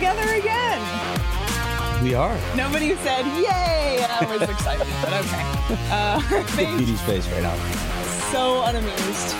together again. We are. Nobody said yay. I was excited, but okay. Petey's face right now. So unamused.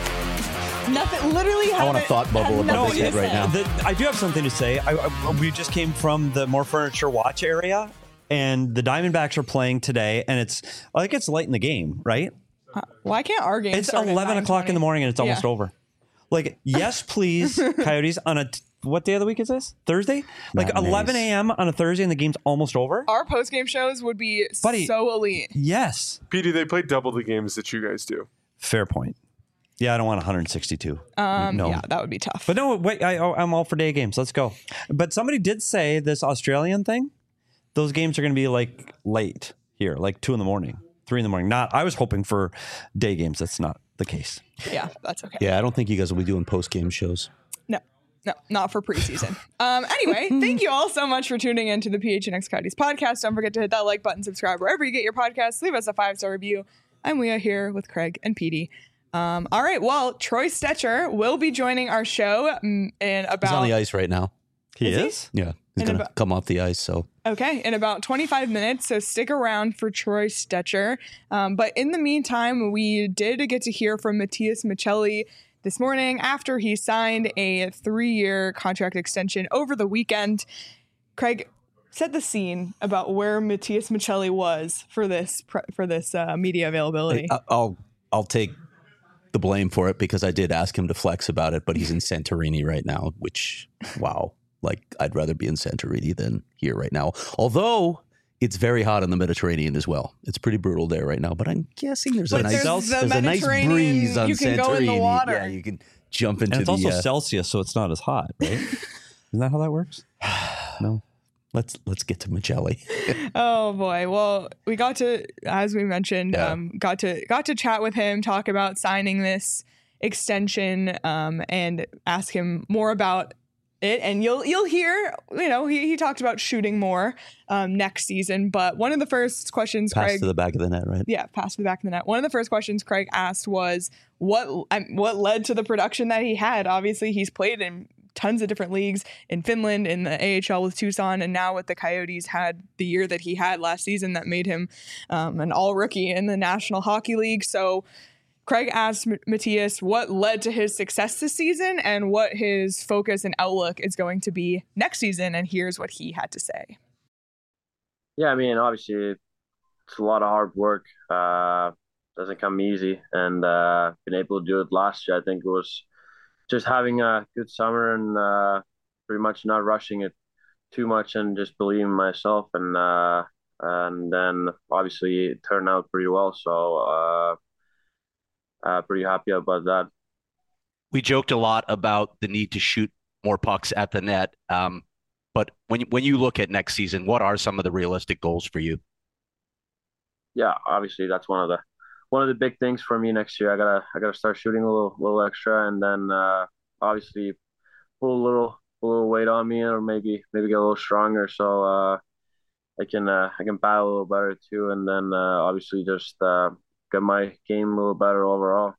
Nothing. Literally. I want a thought bubble above his head right now. I do have something to say. We just came from the More Furniture Watch area, and the Diamondbacks are playing today, and it's late in the game, right? Why can't our game? It's 11 o'clock in the morning, and it's almost over. Like, yes, please, Coyotes on a. What day of the week is this? Thursday? Like 11 a.m. on a Thursday and the game's almost over? Our post-game shows would be so elite. Yes. Petey, they play double the games that you guys do. Fair point. Yeah, I don't want 162. No. Yeah, that would be tough. But no, wait, I'm all for day games. Let's go. But somebody did say this Australian thing, those games are going to be like late here, like 2 a.m, 3 a.m. I was hoping for day games. That's not the case. Yeah, that's okay. Yeah, I don't think you guys will be doing post-game shows. No, not for preseason. Anyway, thank you all so much for tuning in to the PHNX Coyotes podcast. Don't forget to hit that like button, subscribe wherever you get your podcasts. Leave us a 5-star review. I'm Leah here with Craig and Petey. All right, well, Troy Stecher will be joining our show in about... He's on the ice right now. He is? Yeah, he's going to come off the ice, so... Okay, in about 25 minutes, so stick around for Troy Stecher. But in the meantime, we did get to hear from Matias Maccelli this morning after he signed a 3-year contract extension over the weekend. Craig, set the scene about where Matias Maccelli was for this media availability. I'll take the blame for it because I did ask him to flex about it, but he's in Santorini right now, which, wow. Like, I'd rather be in Santorini than here right now. Although it's very hot in the Mediterranean as well. It's pretty brutal there right now, but I'm guessing there's a nice breeze on Santorini. You can go in the water. Yeah, you can jump into and it's also Celsius, so it's not as hot, right? Isn't that how that works? No. Let's get to Maccelli. Oh boy. Well, we got to, as we mentioned, got to chat with him, talk about signing this extension, and ask him more about it. And you'll hear, he talked about shooting more next season. But one of the first questions, Pass to the back of the net, right? Yeah, pass to the back of the net. One of the first questions Craig asked was what led to the production that he had. Obviously, he's played in tons of different leagues in Finland, in the AHL with Tucson, and now with the Coyotes had the year that he had last season that made him an all-rookie in the National Hockey League. So Craig asked Matias what led to his success this season and what his focus and outlook is going to be next season, and here's what he had to say. Yeah, I mean, obviously, it's a lot of hard work. Doesn't come easy, and been able to do it last year. I think it was just having a good summer and pretty much not rushing it too much and just believing in myself. And then obviously it turned out pretty well. So pretty happy about that. We joked a lot about the need to shoot more pucks at the net. But when you look at next season, what are some of the realistic goals for you? Yeah, obviously that's one of the big things for me next year. I gotta start shooting a little extra, and then obviously put a little weight on me, or maybe get a little stronger, so I can battle a little better too, and then obviously just get my game a little better overall.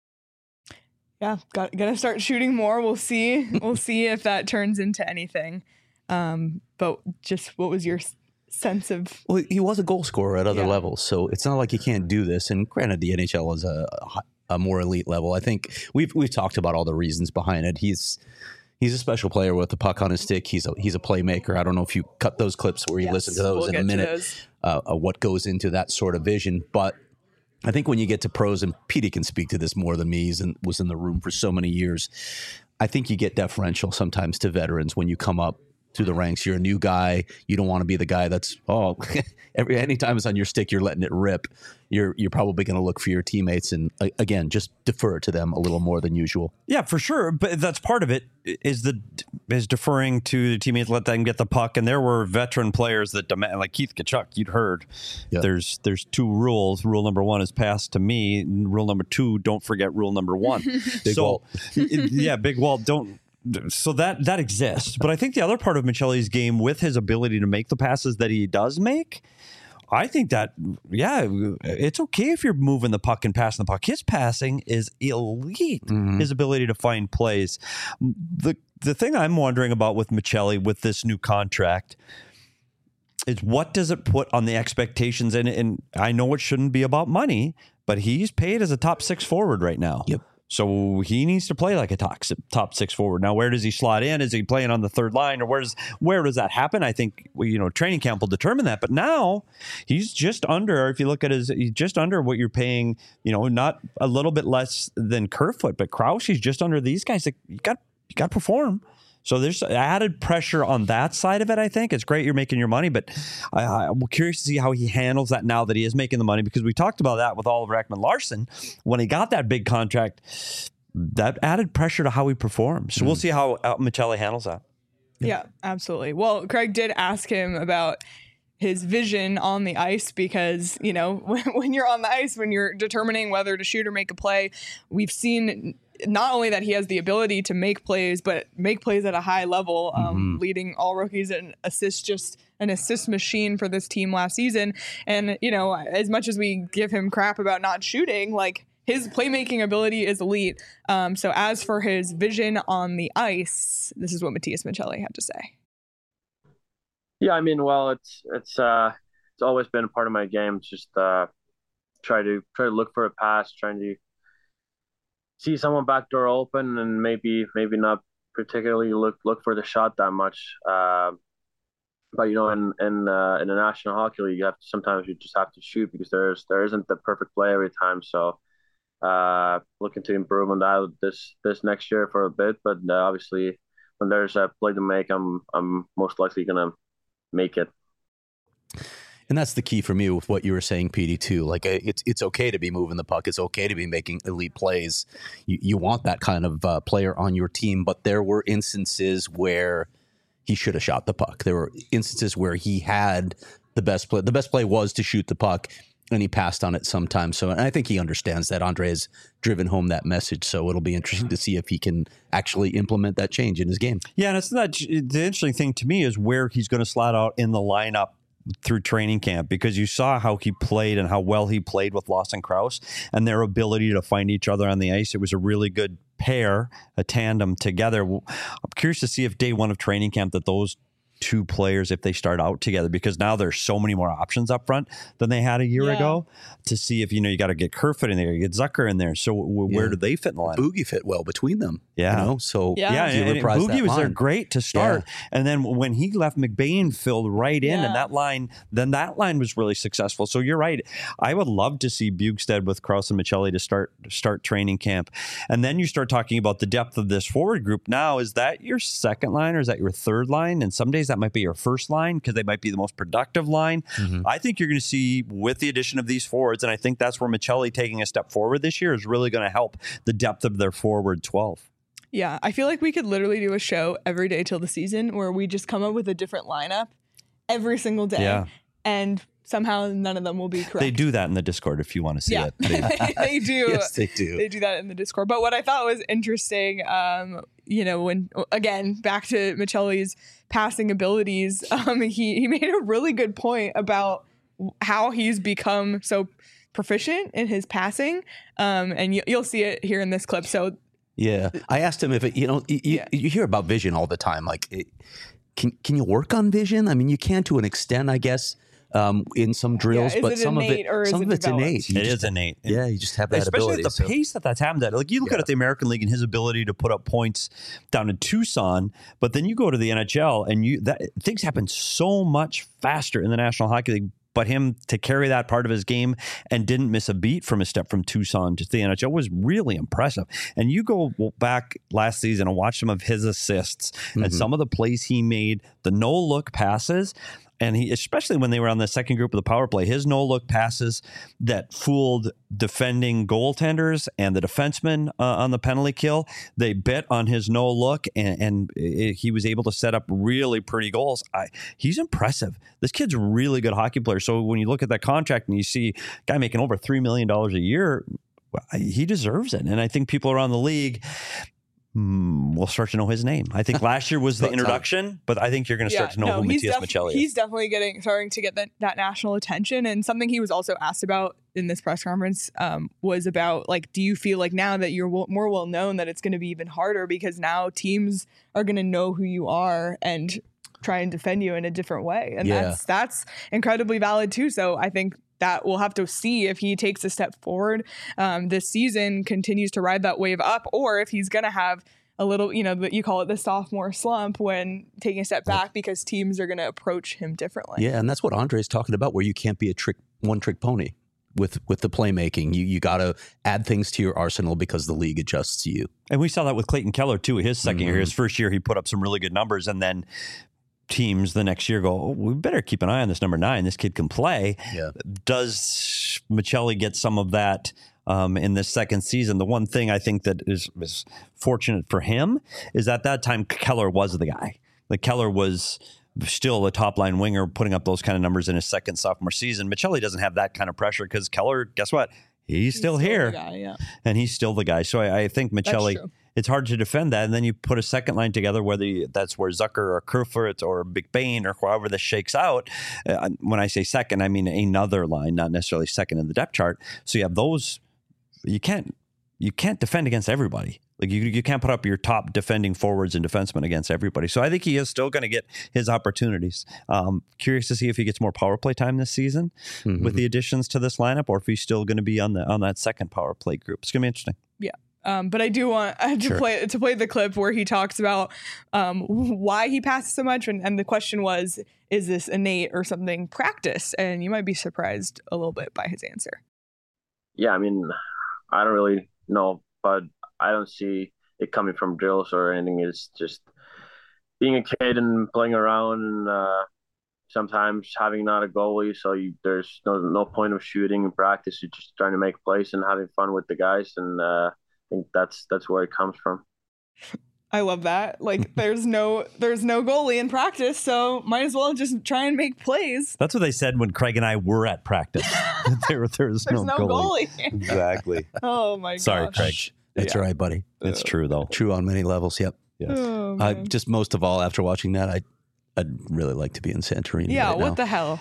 Yeah, gonna start shooting more. We'll see if that turns into anything. But just what was your sense of? Well, he was a goal scorer at other levels, so it's not like he can't do this. And granted, the NHL is a more elite level. I think we've talked about all the reasons behind it. He's a special player with the puck on his stick. He's a playmaker. I don't know if you cut those clips where you listen to those in a minute. What goes into that sort of vision, but I think when you get to pros, and Petey can speak to this more than me, was in the room for so many years. I think you get deferential sometimes to veterans when you come up through the ranks. You're a new guy. You don't want to be the guy that's anytime it's on your stick, you're letting it rip. You're probably going to look for your teammates and again just defer to them a little more than usual. Yeah, for sure. But that's part of it is deferring to the teammates, let them get the puck. And there were veteran players that demand, like Keith Tkachuk. You'd heard there's 2 rules. Rule number 1 is pass to me. Rule number 2, don't forget rule number 1. Big Walt. Yeah, Big Walt. Don't. So that exists. But I think the other part of Maccelli's game, with his ability to make the passes that he does make, I think that, it's okay if you're moving the puck and passing the puck. His passing is elite. His ability to find plays. The thing I'm wondering about with Maccelli with this new contract is what does it put on the expectations? And I know it shouldn't be about money, but he's paid as a top 6 forward right now. Yep. So he needs to play like a top 6 forward. Now, where does he slot in? Is he playing on the third line, or where does that happen? I think training camp will determine that. But now he's just under. If you look at he's just under what you're paying. Not a little bit less than Kerfoot, but Krause, he's just under these guys. Like, you got to perform. So there's added pressure on that side of it, I think. It's great you're making your money, but I'm curious to see how he handles that now that he is making the money, because we talked about that with Oliver Ekman-Larsson. When he got that big contract, that added pressure to how he performs. So we'll see how Maccelli handles that. Yeah, absolutely. Well, Craig did ask him about his vision on the ice, because, when you're on the ice, when you're determining whether to shoot or make a play, we've seen not only that he has the ability to make plays, but make plays at a high level, leading all rookies in assists, just an assist machine for this team last season. And, as much as we give him crap about not shooting, like, his playmaking ability is elite. So as for his vision on the ice, this is what Matias Maccelli had to say. Yeah, I mean, well, it's always been a part of my game. Just try to look for a pass, trying to see someone back door open, and maybe not particularly look for the shot that much. But in the National Hockey League, sometimes you just have to shoot, because there isn't the perfect play every time. So looking to improve on that this next year for a bit. But obviously, when there's a play to make, I'm most likely gonna make it. And that's the key for me with what you were saying, PD, too. Like, it's okay to be moving the puck. It's okay to be making elite plays. You want that kind of player on your team. But there were instances where he should have shot the puck. There were instances where he had the best play. The best play was to shoot the puck, and he passed on it sometimes. So, and I think he understands that. Andre has driven home that message. So it'll be interesting to see if he can actually implement that change in his game. Yeah, and it's not the interesting thing to me is where he's going to slot out in the lineup through training camp, because you saw how he played and how well he played with Lawson Krause and their ability to find each other on the ice. It was a really good pair, a tandem together. I'm curious to see if day one of training camp that those two players, if they start out together, because now there's so many more options up front than they had a year ago, to see if, you got to get Kerfoot in there, you get Zucker in there. So where do they fit in the line? Boogie fit well between them. Yeah. So and Boogie was there great to start. Yeah. And then when he left, McBain filled right in, and that line was really successful. So you're right. I would love to see Bjugstad with Krause and Maccelli to start training camp. And then you start talking about the depth of this forward group. Now, is that your second line, or is that your third line? And some days that might be your first line, because they might be the most productive line. I think you're going to see, with the addition of these forwards, and I think that's where Maccelli taking a step forward this year is really going to help the depth of their forward 12. Yeah, I feel like we could literally do a show every day till the season where we just come up with a different lineup every single day. Yeah. And somehow none of them will be correct. They do that in the Discord if you want to see it. They do. Yes, they do. They do that in the Discord. But what I thought was interesting, when, again, back to Maccelli's passing abilities, he made a really good point about how he's become so proficient in his passing. And you'll see it here in this clip. So yeah, I asked him if you hear about vision all the time. Like, can you work on vision? I mean, you can to an extent, I guess, in some drills, but some of it's innate. It is innate. Yeah, you just have that especially ability. Especially at the pace that's happened at. Like, you look at the American League and his ability to put up points down in Tucson, but then you go to the NHL and things happen so much faster in the National Hockey League. But him to carry that part of his game and didn't miss a beat from his step from Tucson to the NHL was really impressive. And you go back last season and watch some of his assists and some of the plays he made, the no-look passes. And he, especially when they were on the second group of the power play, his no-look passes that fooled defending goaltenders and the defensemen on the penalty kill, they bit on his no-look, and he was able to set up really pretty goals. He's impressive. This kid's a really good hockey player. So when you look at that contract and you see a guy making over $3 million a year, he deserves it. And I think people around the league, we'll start to know his name. I think last year was the introduction, but I think you're going to start to know who Matias Maccelli is. He's definitely starting to get that national attention. And something he was also asked about in this press conference was about, like, do you feel like now that you're more well known that it's going to be even harder because now teams are going to know who you are and try and defend you in a different way? And that's incredibly valid too. So I think that we'll have to see if he takes a step forward this season, continues to ride that wave up, or if he's going to have a little, you call it the sophomore slump when taking a step back because teams are going to approach him differently. Yeah, and that's what Andre's talking about, where you can't be a one-trick pony with the playmaking. You got to add things to your arsenal because the league adjusts to you. And we saw that with Clayton Keller too. His second year, his first year, he put up some really good numbers, and then teams the next year go, we better keep an eye on this number 9. This kid can play. Yeah. Does Maccelli get some of that in this second season? The one thing I think that is fortunate for him is at that time Keller was the guy. Like, Keller was still a top line winger putting up those kind of numbers in his second sophomore season. Maccelli doesn't have that kind of pressure because Keller, guess what? He's still here. Guy, and he's still the guy. So I think Maccelli, it's hard to defend that. And then you put a second line together, whether that's where Zucker or Kerfoot or McBain or however this shakes out. When I say second, I mean another line, not necessarily second in the depth chart. So you have those. You can't defend against everybody. Like, you can't put up your top defending forwards and defensemen against everybody. So I think he is still going to get his opportunities. Curious to see if he gets more power play time this season with the additions to this lineup, or if he's still going to be on that second power play group. It's going to be interesting. Yeah. But I do want to play the clip where he talks about why he passes so much, and the question was, is this innate or something practice? And you might be surprised a little bit by his answer. Yeah, I mean, I don't really know, but I don't see it coming from drills or anything. It's just being a kid and playing around, and sometimes having not a goalie, so there's no point of shooting in practice. You're just trying to make plays and having fun with the guys, and I think that's where it comes from. I love that. Like, there's no goalie in practice, so might as well just try and make plays. That's what they said when Craig and I were at practice. There's no goalie. Exactly. Oh my gosh. Sorry, Craig. That's right, buddy. It's true though. True on many levels. Yep. Yes. Oh, just most of all, after watching that, I'd really like to be in Santorini. Yeah. Right What now. the hell?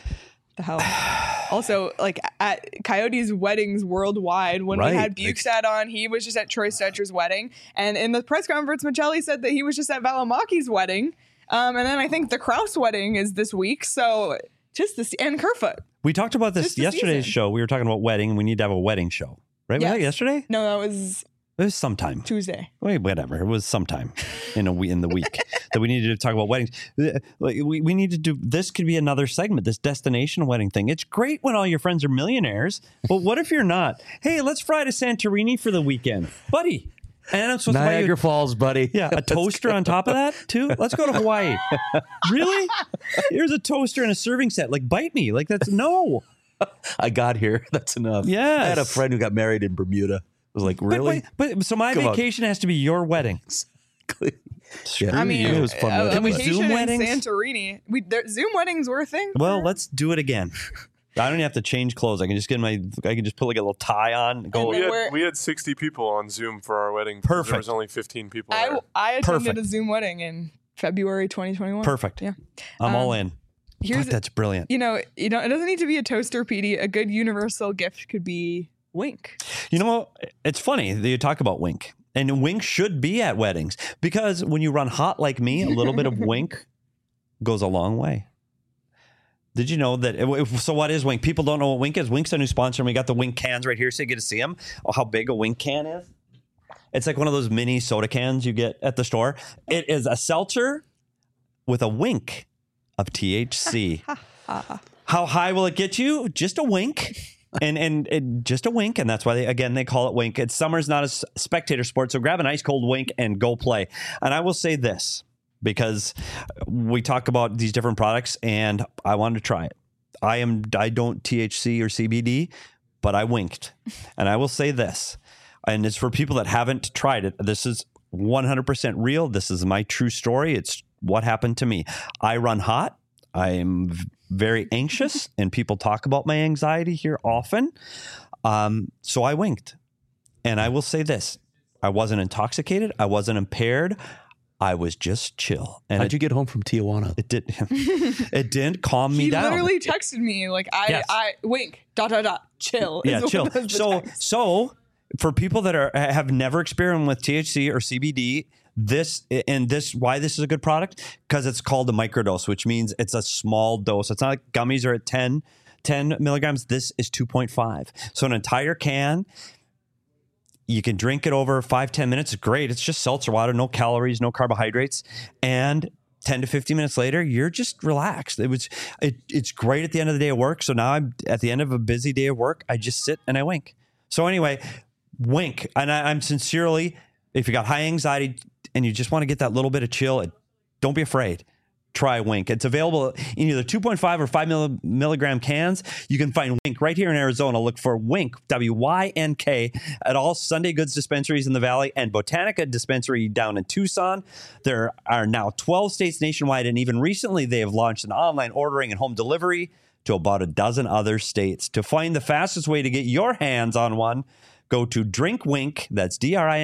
Also, like, at Coyotes weddings worldwide, when we had Bukestad on, he was just at Troy Stetcher's wedding. And in the press conference, Maccelli said that he was just at Valimaki's wedding. And then I think the Krause wedding is this week. So just this, and Kerfoot. We talked about this yesterday's show. We were talking about wedding, and we need to have a wedding show. Right? Yes. Was that yesterday? No, that was... It was sometime. Tuesday. Wait, whatever. It was sometime in the week that we needed to talk about weddings. We need to do, this could be another segment, this destination wedding thing. It's great when all your friends are millionaires, but what if you're not? Hey, let's fly to Santorini for the weekend. Buddy. And I'm supposed to buy you Niagara Falls, buddy. Yeah, a toaster on top of that too. Let's go to Hawaii. Really? Here's a toaster and a serving set. Like, bite me. Like, that's no. I got here. That's enough. Yes. I had a friend who got married in Bermuda. I was like, really? But so my vacation has to be your wedding. Yeah, I mean, it was fun. A Can we vacation Zoom in weddings? Santorini. Zoom weddings were a thing. Well, let's do it again. I don't even have to change clothes. I can just put like a little tie on. And go. We had 60 people on Zoom for our wedding. Perfect. There was only 15 people there. I attended a Zoom wedding in February 2021. Perfect. Yeah. I'm all in. That's brilliant. It doesn't need to be a toaster, Petey. A good universal gift could be Wink. You know, it's funny that you talk about Wink. And Wink should be at weddings, because when you run hot like me, a little bit of Wink goes a long way. Did you know that? So what is Wink? People don't know what Wink is. Wink's a new sponsor, and we got the Wink cans right here, so you get to see them. Oh, how big a Wink can is. It's like one of those mini soda cans you get at the store. It is a seltzer with a wink of THC. How high will it get you? Just a wink. And just a wink, and that's why they call it Wink. It's summer's not a spectator sport, so grab an ice cold Wink and go play. And I will say this, because we talk about these different products, and I wanted to try it. I don't THC or CBD, but I winked, and I will say this, and it's for people that haven't tried it. This is 100% real. This is my true story. It's what happened to me. I run hot. I'm very anxious, and people talk about my anxiety here often. So I winked. And I will say this. I wasn't intoxicated. I wasn't impaired. I was just chill. And how'd you get home from Tijuana? It didn't calm me down. He literally texted me like, I wink, ... chill. Yeah, chill. So for people that have never experienced with THC or CBD, why this is a good product, because it's called a microdose, which means it's a small dose. It's not like gummies are at 10 milligrams. This is 2.5. So an entire can. You can drink it over 5-10 minutes. It's great. It's just seltzer water, no calories, no carbohydrates. And 10 to 15 minutes later, you're just relaxed. It's great at the end of the day of work. So now I'm at the end of a busy day of work. I just sit and I wink. So anyway, wink. And I'm sincerely, if you got high anxiety and you just want to get that little bit of chill, don't be afraid. Try Wink. It's available in either 2.5 or 5 milligram cans. You can find Wink right here in Arizona. Look for Wink, W-Y-N-K, at all Sunday Goods dispensaries in the Valley and Botanica dispensary down in Tucson. There are now 12 states nationwide, and even recently they have launched an online ordering and home delivery to about a dozen other states. To find the fastest way to get your hands on one, go to DrinkWink, that's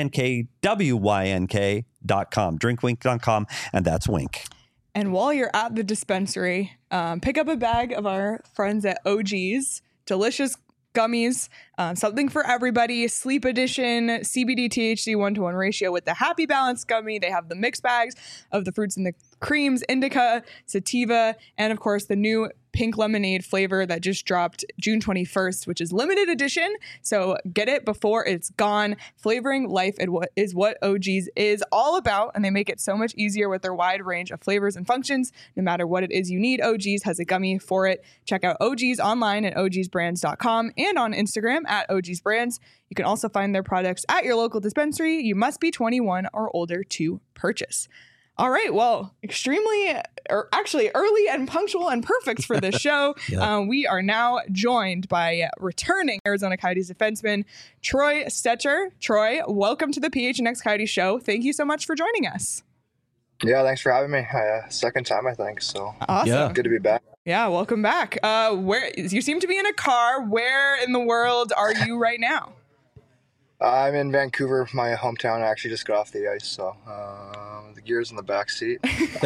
DrinkWYNK.com, drinkwink.com, and that's Wink. And while you're at the dispensary, pick up a bag of our friends at OG's. Delicious gummies, something for everybody. Sleep Edition, CBD THC 1-to-1 ratio with the Happy Balance gummy. They have the mixed bags of the fruits and the creams, indica, sativa, and of course the new pink lemonade flavor that just dropped June 21st, which is limited edition. So get it before it's gone. Flavoring life is what OG's is all about, and they make it so much easier with their wide range of flavors and functions. No matter what it is you need, OG's has a gummy for it. Check out OG's online at ogsbrands.com and on Instagram at OG'sBrands. You can also find their products at your local dispensary. You must be 21 or older to purchase. All right. Well, actually early and punctual and perfect for this show. Yeah. We are now joined by returning Arizona Coyotes defenseman, Troy Stecher. Troy, welcome to the PHNX Coyotes show. Thank you so much for joining us. Yeah, thanks for having me. Second time, I think. So awesome. Yeah. Good to be back. Yeah, welcome back. Where you seem to be in a car. Where in the world are you right now? I'm in Vancouver, my hometown. I actually just got off the ice, so the gear's in the back seat.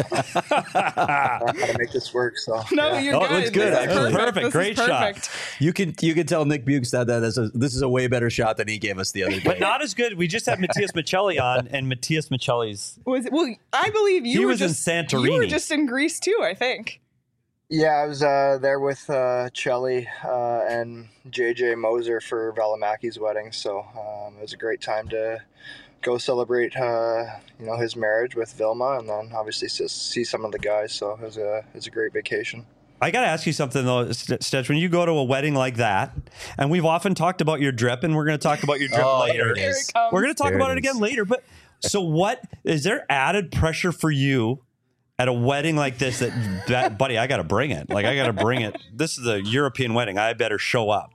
How to make this work? So no, you're good. It's good. Perfect. Great shot. You can tell Nick Bukestad that this is a way better shot than he gave us the other day. But not as good. We just had Matthias Michelli on, and Matthias Michelli's I believe he was in Santorini. You were just in Greece too, I think. Yeah, I was there with Chelly and JJ Moser for Valimaki's wedding, so it was a great time to go celebrate, his marriage with Vilma, and then obviously see some of the guys. So it was a great vacation. I got to ask you something though, Stetch. When you go to a wedding like that, and we've often talked about your drip, and we're going to talk about your drip later. We're going to talk about it again later. But so, what is there added pressure for you? At a wedding like this, that buddy, I got to bring it. Like, I got to bring it. This is a European wedding. I better show up.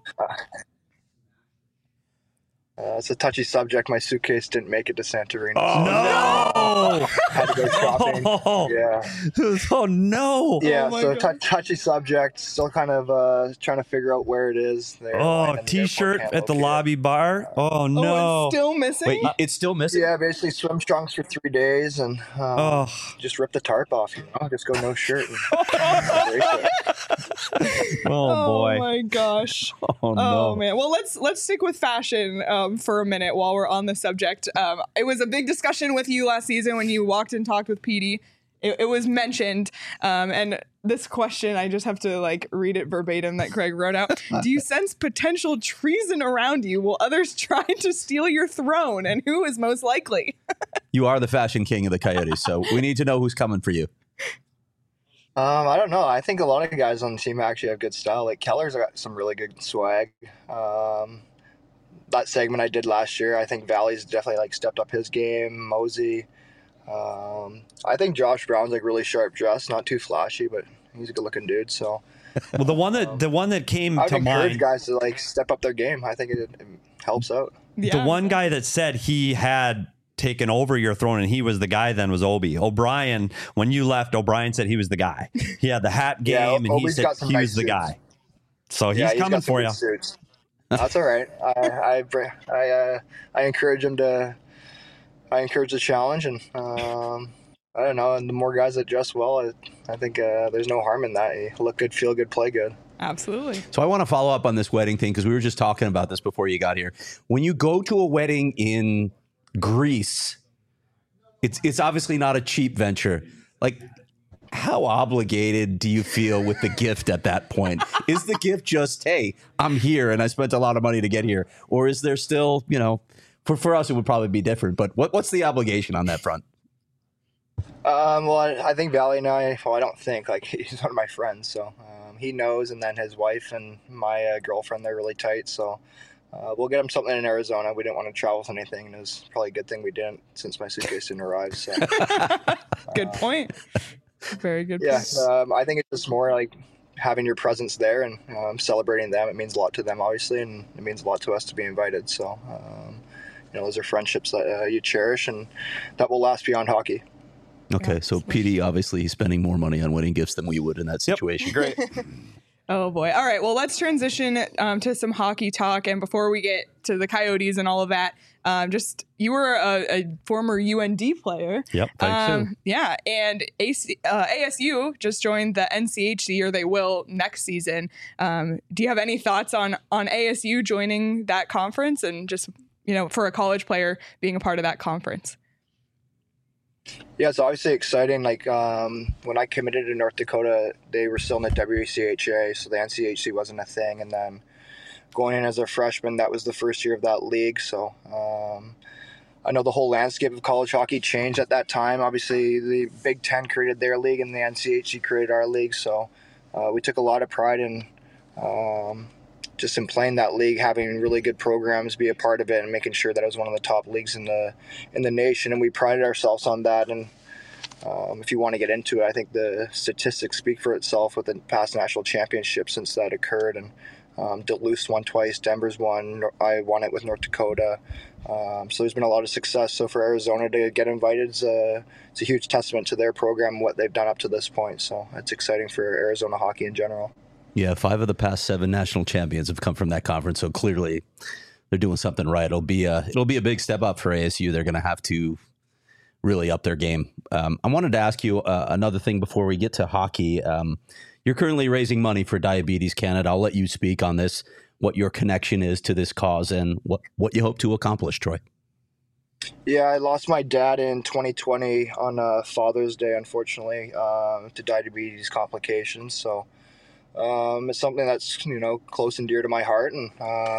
It's a touchy subject. My suitcase didn't make it to Santorini. Oh, no! Had to go shopping. Yeah. Oh, no. Yeah, so touchy subject. Still kind of trying to figure out where it is. T-shirt at the lobby bar. Oh, no. Oh, it's still missing? Wait, it's still missing? Yeah, basically swim trunks for 3 days and just rip the tarp off, Just go no shirt. Oh, boy. Oh, my gosh. Oh, no. Oh, man. Well, let's stick with fashion for a minute while we're on the subject. It was a big discussion with you last season when you walked and talked with Petey. It was mentioned. And this question, I just have to read it verbatim that Craig wrote out. Do you sense potential treason around you? Will others try to steal your throne? And who is most likely? You are the fashion king of the Coyotes, so we need to know who's coming for you. I don't know. I think a lot of guys on the team actually have good style. Like Keller's got some really good swag. That segment I did last year, I think Valley's definitely stepped up his game. Mosey. I think Josh Brown's really sharp dressed, not too flashy, but he's a good looking dude. So, well, the one that came I would to encourage mind, guys to step up their game. I think it helps out. The one guy that said he had taken over your throne and he was the guy then was Obi. O'Brien, when you left, O'Brien said he was the guy. He had the hat game and he said he was the guy. So he's coming for you. Suits. That's all right. I encourage him to I encourage the challenge, and I don't know. And the more guys that dress well, I think there's no harm in that. You look good, feel good, play good. Absolutely. So I want to follow up on this wedding thing because we were just talking about this before you got here. When you go to a wedding in Greece, it's obviously not a cheap venture. Like, how obligated do you feel with the gift at that point? Is the gift just, hey, I'm here and I spent a lot of money to get here? Or is there still, for us, it would probably be different. But what's the obligation on that front? Well, I think Valley and I don't think, like, he's one of my friends, so he knows, and then his wife and my girlfriend, they're really tight, so we'll get him something in Arizona. We didn't want to travel with anything, and it was probably a good thing we didn't, since my suitcase didn't arrive. So good point. Very good yeah, point. I think it's just more like having your presence there and celebrating them. It means a lot to them, obviously, and it means a lot to us to be invited. So those are friendships that you cherish, and that will last beyond hockey. Okay, Yeah, so PD, obviously, he's spending more money on wedding gifts than we would in that situation. Great. Oh, boy. All right. Well, let's transition to some hockey talk. And before we get to the Coyotes and all of that, you were a former UND player. Yep. Thanks. Yeah. And ASU just joined the NCHC, or they will next season. Do you have any thoughts on ASU joining that conference and just, for a college player being a part of that conference? Yeah, it's obviously exciting. Like when I committed to North Dakota, they were still in the WCHA, so the NCHC wasn't a thing. And then going in as a freshman, that was the first year of that league. So I know the whole landscape of college hockey changed at that time. Obviously, the Big Ten created their league, and the NCHC created our league. So we took a lot of pride in just in playing that league, having really good programs, be a part of it, and making sure that it was one of the top leagues in the nation. And we prided ourselves on that. And if you want to get into it, I think the statistics speak for itself with the past national championships since that occurred. And Duluth won twice, Denver's won, I won it with North Dakota. So there's been a lot of success. So for Arizona to get invited, it's a huge testament to their program and what they've done up to this point. So it's exciting for Arizona hockey in general. Yeah, 5 of the past 7 national champions have come from that conference, so clearly they're doing something right. It'll be a big step up for ASU. They're going to have to really up their game. I wanted to ask you another thing before we get to hockey. You're currently raising money for Diabetes Canada. I'll let you speak on this, what your connection is to this cause and what you hope to accomplish, Troy. Yeah, I lost my dad in 2020 on Father's Day, unfortunately, to diabetes complications. So it's something that's, close and dear to my heart. And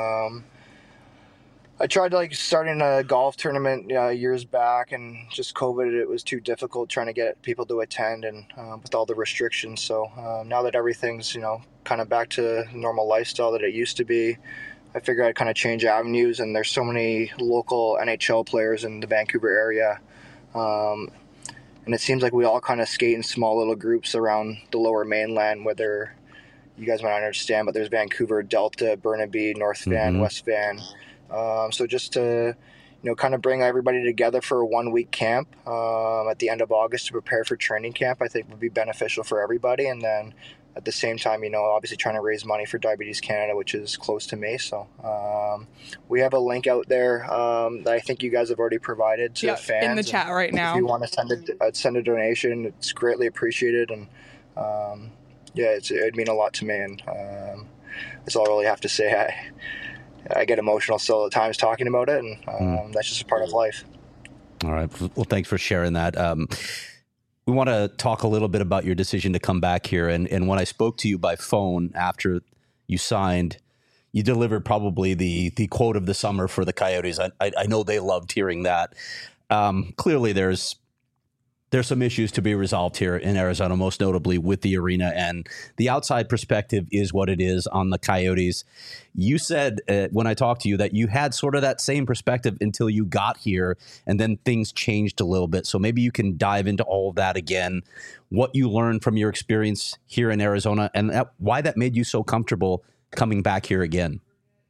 I tried starting a golf tournament years back, and just COVID, it was too difficult trying to get people to attend, and with all the restrictions. So now that everything's, kind of back to normal lifestyle that it used to be, I figured I'd kind of change avenues. And there's so many local NHL players in the Vancouver area. And it seems like we all kind of skate in small little groups around the Lower Mainland, whether you guys might not understand, but there's Vancouver, Delta, Burnaby, North Van, West Van. So just to, kind of bring everybody together for a 1-week camp at the end of August to prepare for training camp, I think would be beneficial for everybody. And then at the same time, obviously trying to raise money for Diabetes Canada, which is close to me. So we have a link out there that I think you guys have already provided to fans. In the chat right now. If you want to send a donation, it's greatly appreciated. And it'd mean a lot to me. And that's all I really have to say. I get emotional still at times talking about it, and that's just a part of life. All right. Well, thanks for sharing that. We want to talk a little bit about your decision to come back here. And when I spoke to you by phone after you signed, you delivered probably the quote of the summer for the Coyotes. I know they loved hearing that. Clearly, there's some issues to be resolved here in Arizona, most notably with the arena, and the outside perspective is what it is on the Coyotes. You said when I talked to you that you had sort of that same perspective until you got here, and then things changed a little bit. So maybe you can dive into all of that again, what you learned from your experience here in Arizona, and why that made you so comfortable coming back here again.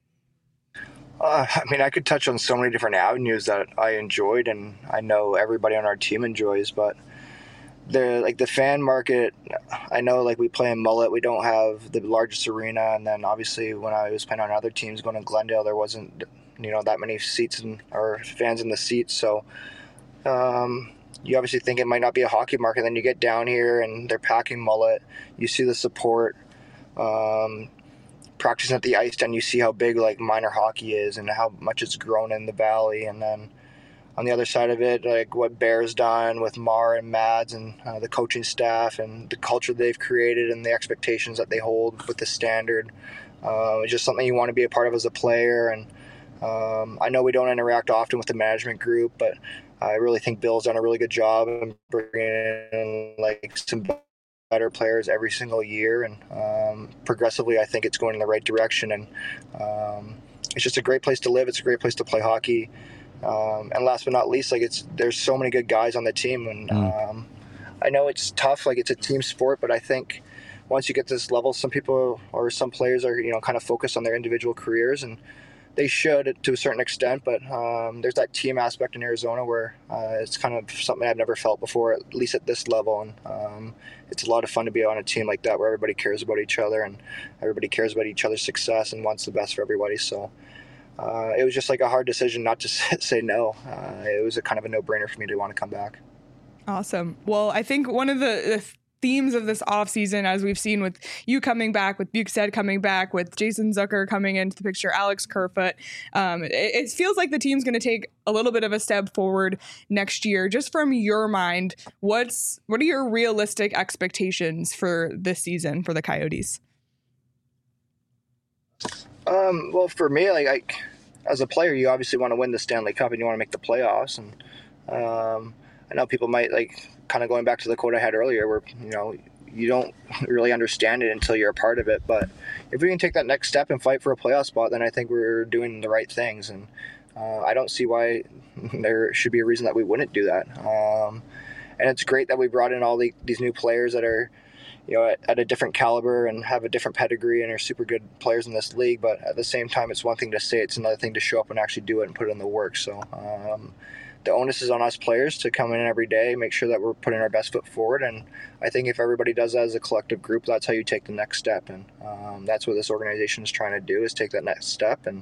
I could touch on so many different avenues that I enjoyed, and I know everybody on our team enjoys, but the fan market, I know we play in Mullet, we don't have the largest arena, and then obviously when I was playing on other teams going to Glendale, there wasn't that many seats or fans in the seats. So You obviously think it might not be a hockey market. Then you get down here and they're packing mullet. You see the support. Practicing at the ice, and you see how big like minor hockey is and how much it's grown in the valley. And then on the other side of it, like what Bear's done with Mar and Mads and the coaching staff and the culture they've created and the expectations that they hold with the standard. It's just something you want to be a part of as a player. And I know we don't interact often with the management group, but I really think Bill's done a really good job in bringing in like some better players every single year, and progressively I think it's going in the right direction. And it's just a great place to live. It's a great place to play hockey. And last but not least, like there's so many good guys on the team, and I know it's tough, like it's a team sport, but I think once you get to this level, some people or some players are kind of focused on their individual careers, and they should to a certain extent, but there's that team aspect in Arizona where it's kind of something I've never felt before, at least at this level. And it's a lot of fun to be on a team like that where everybody cares about each other and everybody cares about each other's success and wants the best for everybody. So it was just like a hard decision not to say no. It was a kind of a no-brainer for me to want to come back. Awesome. Well, I think one of the themes of this offseason, as we've seen with you coming back, with Bukestad coming back, with Jason Zucker coming into the picture, Alex Kerfoot, it feels like the team's going to take a little bit of a step forward next year. Just from your mind, what are your realistic expectations for this season for the Coyotes? Well, for me, like as a player, you obviously want to win the Stanley Cup and you want to make the playoffs. And I know people might like kind of going back to the quote I had earlier where, you don't really understand it until you're a part of it. But if we can take that next step and fight for a playoff spot, then I think we're doing the right things. And I don't see why there should be a reason that we wouldn't do that. And it's great that we brought in all these new players that are, at a different caliber and have a different pedigree and are super good players in this league. But at the same time, it's one thing to say, it's another thing to show up and actually do it and put in the work. So the onus is on us players to come in every day, make sure that we're putting our best foot forward. And I think if everybody does that as a collective group, that's how you take the next step. And that's what this organization is trying to do, is take that next step. And,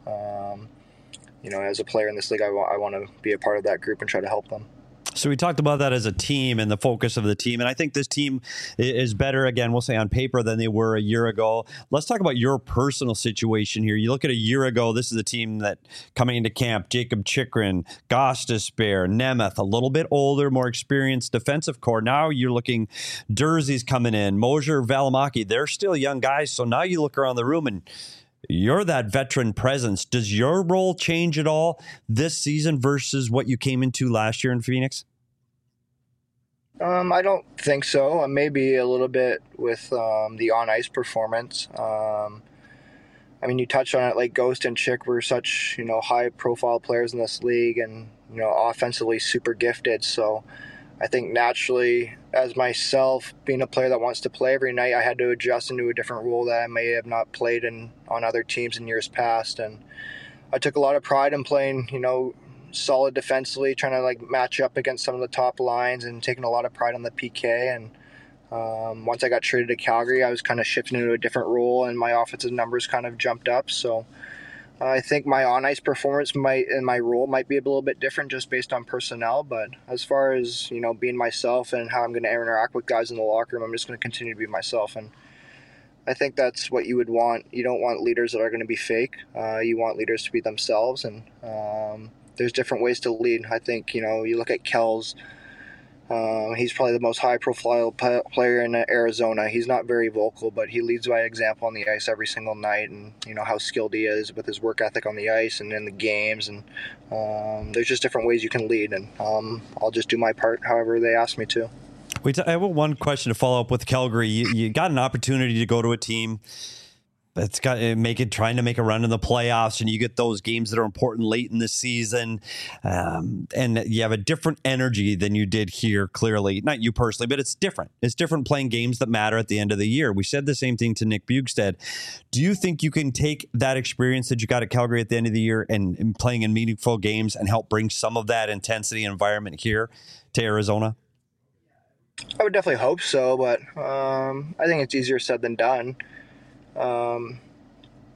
as a player in this league, I want to be a part of that group and try to help them. So we talked about that as a team and the focus of the team. And I think this team is better, again, we'll say on paper than they were a year ago. Let's talk about your personal situation here. You look at a year ago, this is a team that coming into camp, Jacob Chychrun, Gostisbehere, Nemeth, a little bit older, more experienced defensive core. Now you're looking, Durzi's coming in, Moser, Valimaki, they're still young guys. So now you look around the room and you're that veteran presence. Does your role change at all this season versus what you came into last year in Phoenix? I don't think so. Maybe a little bit with the on-ice performance. You touched on it, like Ghost and Chick were such, high-profile players in this league and, offensively super gifted. So I think naturally, as myself, being a player that wants to play every night, I had to adjust into a different role that I may have not played on other teams in years past. And I took a lot of pride in playing, solid defensively, trying to like match up against some of the top lines and taking a lot of pride on the PK. And once I got traded to Calgary, I was kind of shifting into a different role and my offensive numbers kind of jumped up. So I think my on-ice performance and my role might be a little bit different just based on personnel. But as far as, being myself and how I'm going to interact with guys in the locker room, I'm just going to continue to be myself. And I think that's what you would want. You don't want leaders that are going to be fake. You want leaders to be themselves. And there's different ways to lead. I think, you look at Kells. He's probably the most high-profile player in Arizona. He's not very vocal, but he leads by example on the ice every single night, and how skilled he is with his work ethic on the ice and in the games. And there's just different ways you can lead, and I'll just do my part however they ask me to. I have one question to follow up with Calgary. You got an opportunity to go to a team that's got trying to make a run in the playoffs, and you get those games that are important late in the season, and you have a different energy than you did here. Clearly, not you personally, but it's different. It's different playing games that matter at the end of the year. We said the same thing to Nick Bukestad. Do you think you can take that experience that you got at Calgary at the end of the year and playing in meaningful games and help bring some of that intensity and environment here to Arizona? I would definitely hope so, but I think it's easier said than done.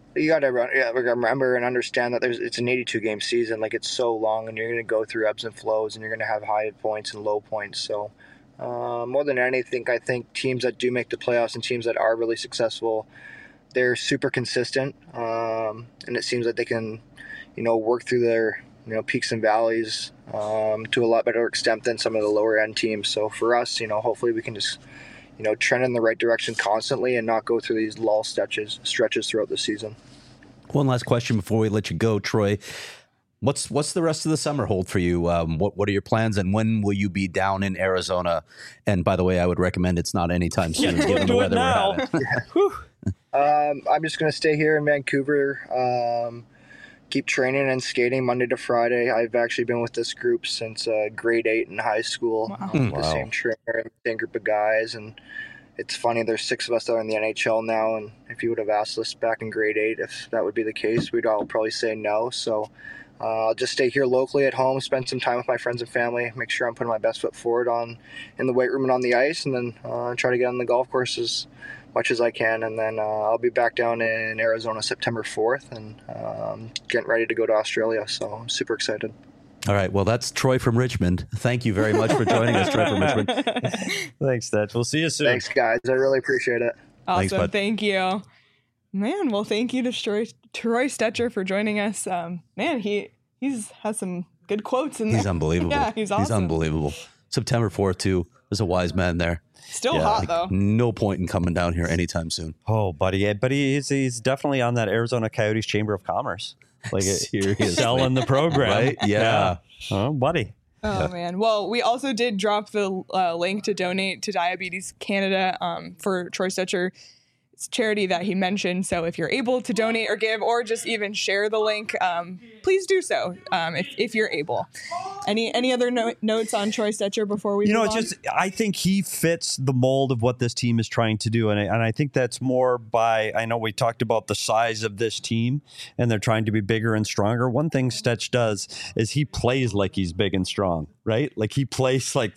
You got to remember and understand that it's an 82-game season. Like, it's so long, and you're going to go through ebbs and flows, and you're going to have high points and low points. So more than anything, I think teams that do make the playoffs and teams that are really successful, they're super consistent, and it seems like they can, work through their peaks and valleys to a lot better extent than some of the lower end teams. So for us, hopefully we can just trend in the right direction constantly and not go through these lull stretches throughout the season. One last question before we let you go, Troy. What's the rest of the summer hold for you? What are your plans, and when will you be down in Arizona? And by the way, I would recommend it's not anytime soon, given the weather we're having. I'm just going to stay here in Vancouver, keep training and skating Monday to Friday. I've actually been with this group since grade 8 in high school. Wow. The same trainer, the same group of guys, and it's funny, there's 6 of us that are in the NHL now, and if you would have asked us back in grade 8 if that would be the case, we'd all probably say no. So I'll just stay here locally at home, spend some time with my friends and family, make sure I'm putting my best foot forward in the weight room and on the ice, and then try to get on the golf course as much as I can. And then I'll be back down in Arizona September 4th and getting ready to go to Australia. So I'm super excited. All right. Well, that's Troy from Richmond. Thank you very much for joining us, Troy from Richmond. Thanks, Stetch. We'll see you soon. Thanks, guys. I really appreciate it. Awesome. Thanks, bud. Thank you. Man, well, thank you to Troy Stecher for joining us. Man, he's has some good quotes in there. He's unbelievable. Yeah, he's awesome. He's unbelievable. September 4th, too. There's a wise man there. Still hot, though. No point in coming down here anytime soon. Oh, buddy. Yeah, but he's definitely on that Arizona Coyotes Chamber of Commerce. Like, Seriously. selling the program. Right? Yeah. Oh, buddy. Oh, man. Well, we also did drop the link to donate to Diabetes Canada for Troy Stecher's charity that he mentioned. So if you're able to donate or give or just even share the link, please do so if you're able. Any other notes on Troy Stecher before we move on? I think he fits the mold of what this team is trying to do. And I think that's more I know we talked about the size of this team and they're trying to be bigger and stronger. One thing Stetch does is he plays like he's big and strong, right? Like he plays like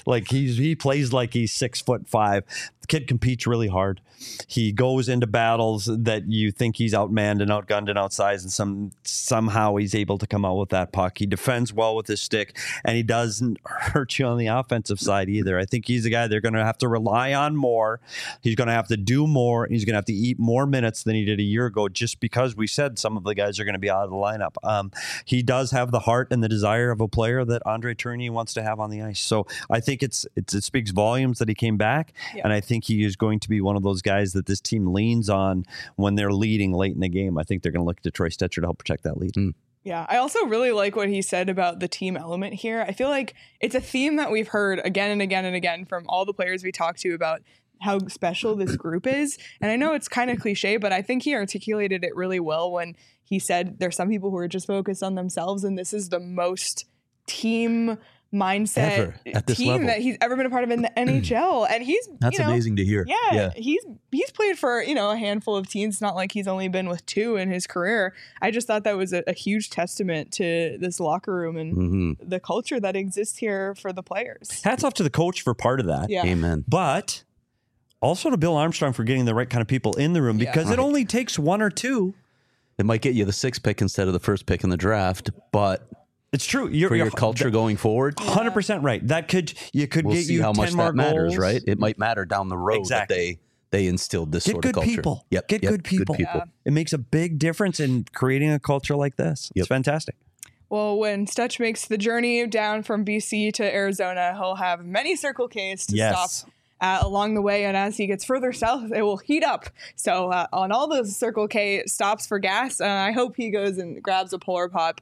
he plays like he's 6'5". The kid competes really hard. He goes into battles that you think he's outmanned and outgunned and outsized, and somehow he's able to come out with that puck. He defends well with his stick, and he doesn't hurt you on the offensive side either. I think he's a guy they're going to have to rely on more. He's going to have to do more. He's going to have to eat more minutes than he did a year ago, just because we said some of the guys are going to be out of the lineup. He does have the heart and the desire of a player that Andre Tourigny wants to have on the ice. So I think it speaks volumes that he came back, and I think he is going to be one of those guys that this team leans on when they're leading late in the game. I think they're going to look to Troy Stecher to help protect that lead. Yeah, I also really like what he said about the team element here. I feel like it's a theme that we've heard again and again and again from all the players we talked to about how special this group is. And I know it's kind of cliche, but I think he articulated it really well when he said there's some people who are just focused on themselves, and this is the most team mindset Ever, at this team level that he's ever been a part of in the NHL. And That's amazing to hear. Yeah, he's played for a handful of teams. It's not like he's only been with 2 in his career. I just thought that was a huge testament to this locker room and the culture that exists here for the players. Hats off to the coach for part of that. Yeah. Amen. But also to Bill Armstrong for getting the right kind of people in the room, because it only takes 1 or 2. It might get you the 6th pick instead of the 1st pick in the draft, but it's true. For your culture going forward, 100% right. That could we'll get see you how 10 much more that matters, goals. right? It might matter down the road that they instilled this sort of culture. People. Yep, Get good people. Yeah. It makes a big difference in creating a culture like this. It's fantastic. Well, when Stetch makes the journey down from BC to Arizona, he'll have many Circle Ks to stop along the way, and as he gets further south, it will heat up. So on all those Circle K stops for gas, I hope he goes and grabs a Polar Pop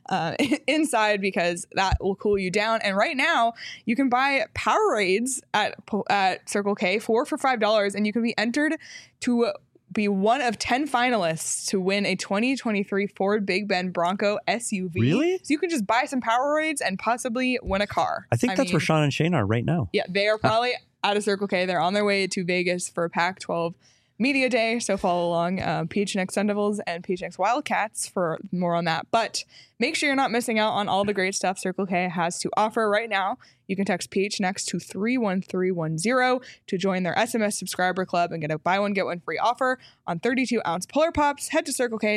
inside, because that will cool you down. And right now, you can buy Powerades at Circle K for $5, and you can be entered to be one of 10 finalists to win a 2023 Ford Big Bend Bronco SUV. Really? So you can just buy some Powerades and possibly win a car. I think that's where Sean and Shane are right now. Yeah, they are probably out of Circle K. They're on their way to Vegas for Pac-12 Media Day, so follow along PHNX Sun Devils and PHNX Wildcats for more on that. But make sure you're not missing out on all the great stuff Circle K has to offer right now. You can text PHNX to 31310 to join their SMS subscriber club and get a buy one, get one free offer on 32-ounce Polar Pops. Head to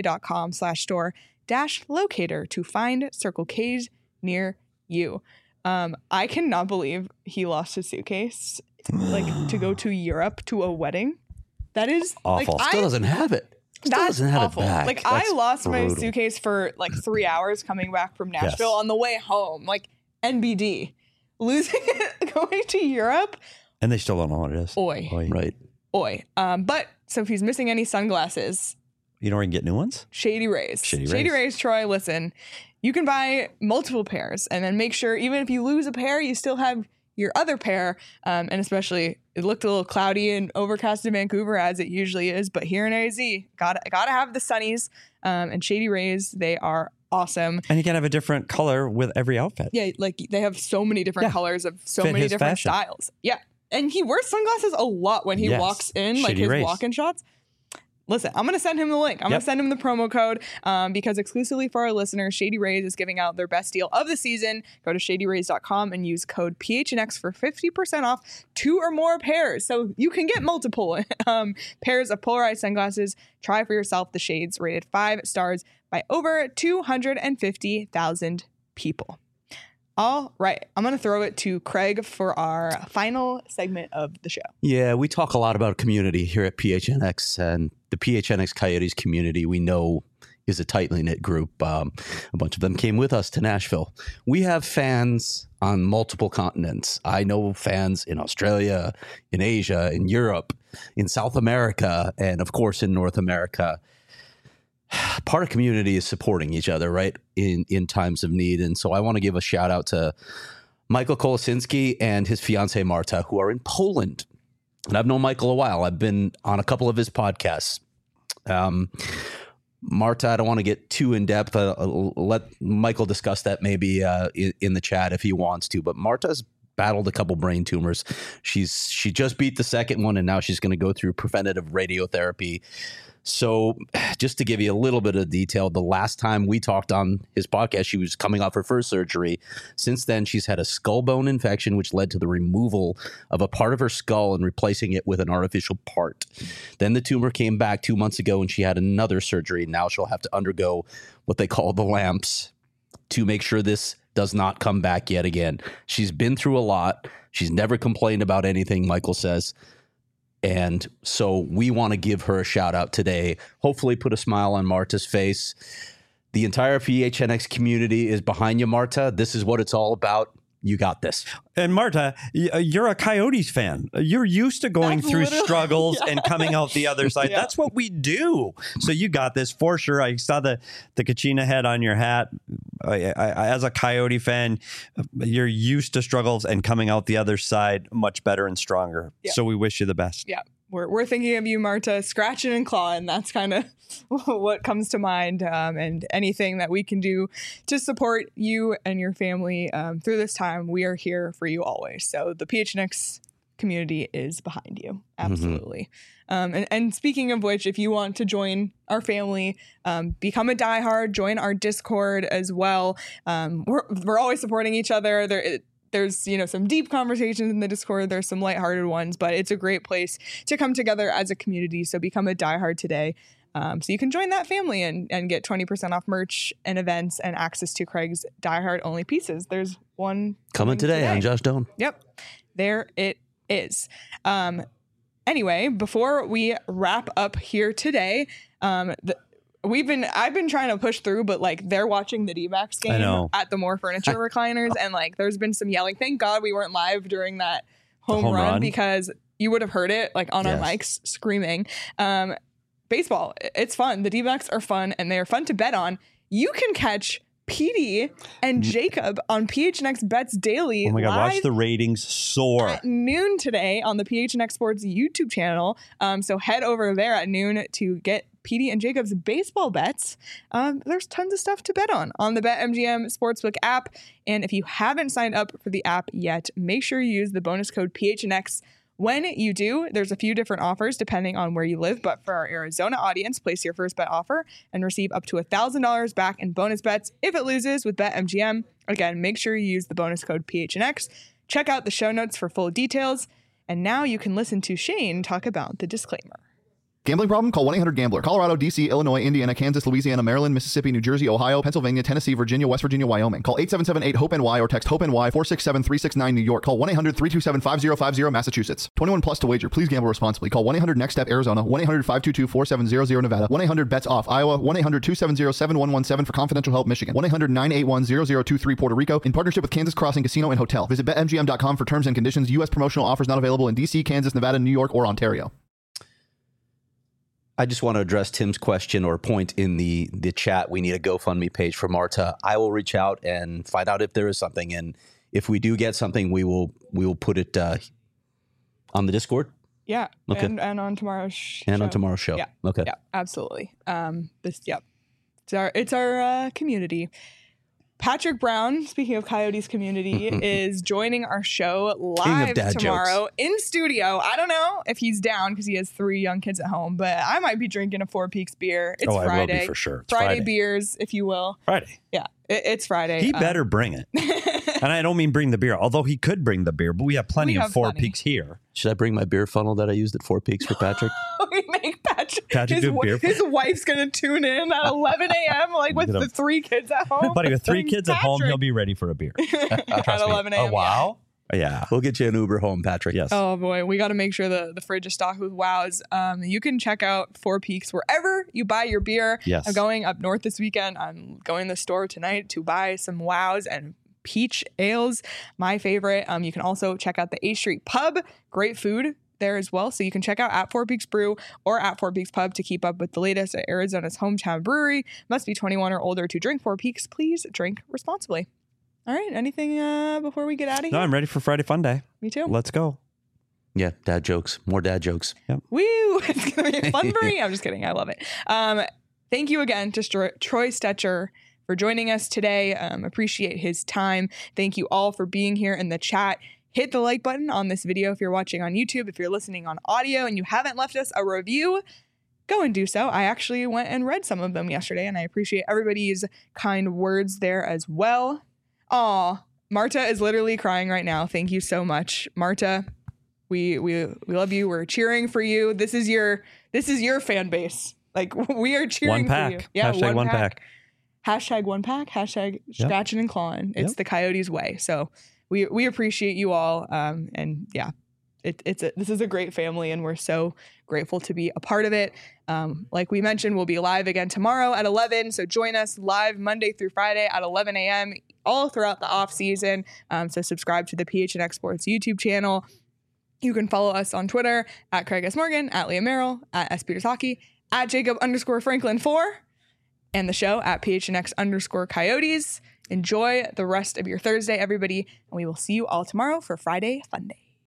circlek.com/store-locator to find Circle K's near you. I cannot believe he lost his suitcase to go to Europe to a wedding. That is awful. Still doesn't have it. That's awful. It back. I lost my suitcase for 3 hours coming back from Nashville on the way home. NBD. Losing it, going to Europe. And they still don't know what it is. Oi. Right. Oi. But so if he's missing any sunglasses. You know where you can get new ones? Shady Rays. Shady Rays, Troy, listen. You can buy multiple pairs and then make sure even if you lose a pair, you still have your other pair. And especially, it looked a little cloudy and overcast in Vancouver as it usually is. But here in AZ, gotta have the sunnies. And Shady Rays, they are awesome. And you can have a different color with every outfit. Yeah, they have so many different colors of so many different styles. Yeah. And he wears sunglasses a lot when he walks in, Shady his Rays. walk-in shots. Listen, I'm going to send him the link. I'm going to send him the promo code because exclusively for our listeners, Shady Rays is giving out their best deal of the season. Go to shadyrays.com and use code PHNX for 50% off 2 or more pairs. So you can get multiple pairs of polarized sunglasses. Try for yourself the shades rated 5 stars by over 250,000 people. All right. I'm going to throw it to Craig for our final segment of the show. Yeah, we talk a lot about community here at PHNX, and the PHNX Coyotes community we know is a tightly knit group. A bunch of them came with us to Nashville. We have fans on multiple continents. I know fans in Australia, in Asia, in Europe, in South America, and of course in North America. Part of community is supporting each other, right, in times of need. And so I want to give a shout out to Michael Kolosinski and his fiancée Marta, who are in Poland. And I've known Michael a while. I've been on a couple of his podcasts. Marta, I don't want to get too in depth. Let Michael discuss that maybe in the chat if he wants to. But Marta's battled a couple brain tumors. She just beat the second one, and now she's going to go through preventative radiotherapy. So just to give you a little bit of detail, the last time we talked on his podcast, she was coming off her first surgery. Since then, she's had a skull bone infection, which led to the removal of a part of her skull and replacing it with an artificial part. Then the tumor came back 2 months ago and she had another surgery. Now she'll have to undergo what they call the lamps to make sure this does not come back yet again. She's been through a lot. She's never complained about anything, Michael says. And so we want to give her a shout out today. Hopefully put a smile on Marta's face. The entire PHNX community is behind you, Marta. This is what it's all about. You got this. And Marta, you're a Coyotes fan. You're used to going through struggles and coming out the other side. That's what we do. So you got this for sure. I saw the Kachina head on your hat. I, as a Coyote fan, you're used to struggles and coming out the other side much better and stronger. Yeah. So we wish you the best. Yeah. We're thinking of you, Marta, scratching and clawing. That's kind of what comes to mind. And anything that we can do to support you and your family through this time, we are here for you always. So the PHNX community is behind you. Absolutely. Mm-hmm. And speaking of which, if you want to join our family, become a diehard, join our Discord as well. We're always supporting each other. There's, some deep conversations in the Discord. There's some lighthearted ones, but it's a great place to come together as a community. So become a diehard today. So you can join that family and get 20% off merch and events and access to Craig's diehard only pieces. There's one coming today on Josh Doan. Yep. There it is. Anyway, before we wrap up here today, I've been trying to push through, but they're watching the D-backs game at the More Furniture recliners, and there's been some yelling. Thank God we weren't live during that home run because you would have heard it on our mics screaming. Baseball, it's fun. The D-backs are fun, and they are fun to bet on. You can catch PD and Jacob on PHNX Bets Daily. Oh my God, watch the ratings soar. At noon today on the PHNX Sports YouTube channel. So head over there at noon to get PD and Jacob's baseball bets. There's tons of stuff to bet on the BetMGM Sportsbook app. And if you haven't signed up for the app yet, make sure you use the bonus code PHNX When you do, there's a few different offers depending on where you live, but for our Arizona audience, place your first bet offer and receive up to $1,000 back in bonus bets if it loses with BetMGM. Again, make sure you use the bonus code PHNX. Check out the show notes for full details. And now you can listen to Shane talk about the disclaimer. Gambling problem? Call 1-800-GAMBLER. Colorado, D.C., Illinois, Indiana, Kansas, Louisiana, Maryland, Mississippi, New Jersey, Ohio, Pennsylvania, Tennessee, Virginia, West Virginia, Wyoming. Call 877-8-HOPE-NY or text HOPE-NY 467-369 New York. Call 1-800-327-5050 Massachusetts. 21 plus to wager. Please gamble responsibly. Call 1-800-NEXT-STEP Arizona. 1-800-522-4700 Nevada. 1-800-BETS-OFF Iowa. 1-800-270-7117 for confidential help Michigan. 1-800-981-0023 Puerto Rico. In partnership with Kansas Crossing Casino and Hotel. Visit BetMGM.com for terms and conditions. U.S. promotional offers not available in D.C., Kansas, Nevada, New York, or Ontario. I just want to address Tim's question or point in the chat. We need a GoFundMe page for Marta. I will reach out and find out if there is something, and if we do get something, we will put it on the Discord. Yeah, okay. and on tomorrow's show. And on tomorrow's show. Yeah, okay. Yeah, absolutely. It's our community. Patrick Brown, speaking of Coyotes community, is joining our show live tomorrow in studio. I don't know if he's down because he has 3 young kids at home, but I might be drinking a Four Peaks beer. It's Friday. I will be for sure. It's Friday beers, if you will. Friday. Yeah, it's Friday. He better bring it. And I don't mean bring the beer, although he could bring the beer, but we have plenty of Four Peaks here. Should I bring my beer funnel that I used at Four Peaks for Patrick? We make Patrick his wife's going to tune in at 11 a.m. like with the 3 kids at home. Buddy, with 3 kids at home, he'll be ready for a beer. At 11 a.m. Oh, wow. Yeah. We'll get you an Uber home, Patrick. Yes. Oh, boy. We got to make sure the fridge is stocked with Wows. You can check out Four Peaks wherever you buy your beer. Yes. I'm going up north this weekend. I'm going to the store tonight to buy some Wows and peach ales, my favorite. You can also check out the A Street Pub. Great food there as well. So you can check out at Four Peaks Brew or at Four Peaks Pub to keep up with the latest at Arizona's hometown brewery. Must be 21 or older to drink Four Peaks. Please drink responsibly. All right. Anything before we get out of here? No, I'm ready for Friday Fun Day. Me too. Let's go. Yeah, dad jokes. More dad jokes. Yep. Woo! It's going to be fun for me. I'm just kidding. I love it. Thank you again to Troy Stetcher for joining us today. Appreciate his time. Thank you all for being here in the chat. Hit the like button on this video if you're watching on YouTube. If you're listening on audio and you haven't left us a review, go and do so. I actually went and read some of them yesterday, and I appreciate everybody's kind words there as well. Aw, Marta is literally crying right now. Thank you so much, Marta. We love you. We're cheering for you. This is your fan base. Like, we are cheering for you. Yeah, Hashtag one pack. Hashtag one pack. Hashtag scratching and clawing. It's the Coyotes way. So we appreciate you all. And yeah, this is a great family, and we're so grateful to be a part of it. Like we mentioned, we'll be live again tomorrow at 11. So join us live Monday through Friday at 11 a.m. all throughout the off season. So subscribe to the PHNX Sports YouTube channel. You can follow us on Twitter at Craig S. Morgan, at Leah Merrill, at S. Peters Hockey, at Jacob_Franklin4, and the show at PHNX_Coyotes. Enjoy the rest of your Thursday, everybody, and we will see you all tomorrow for Friday Fun Day.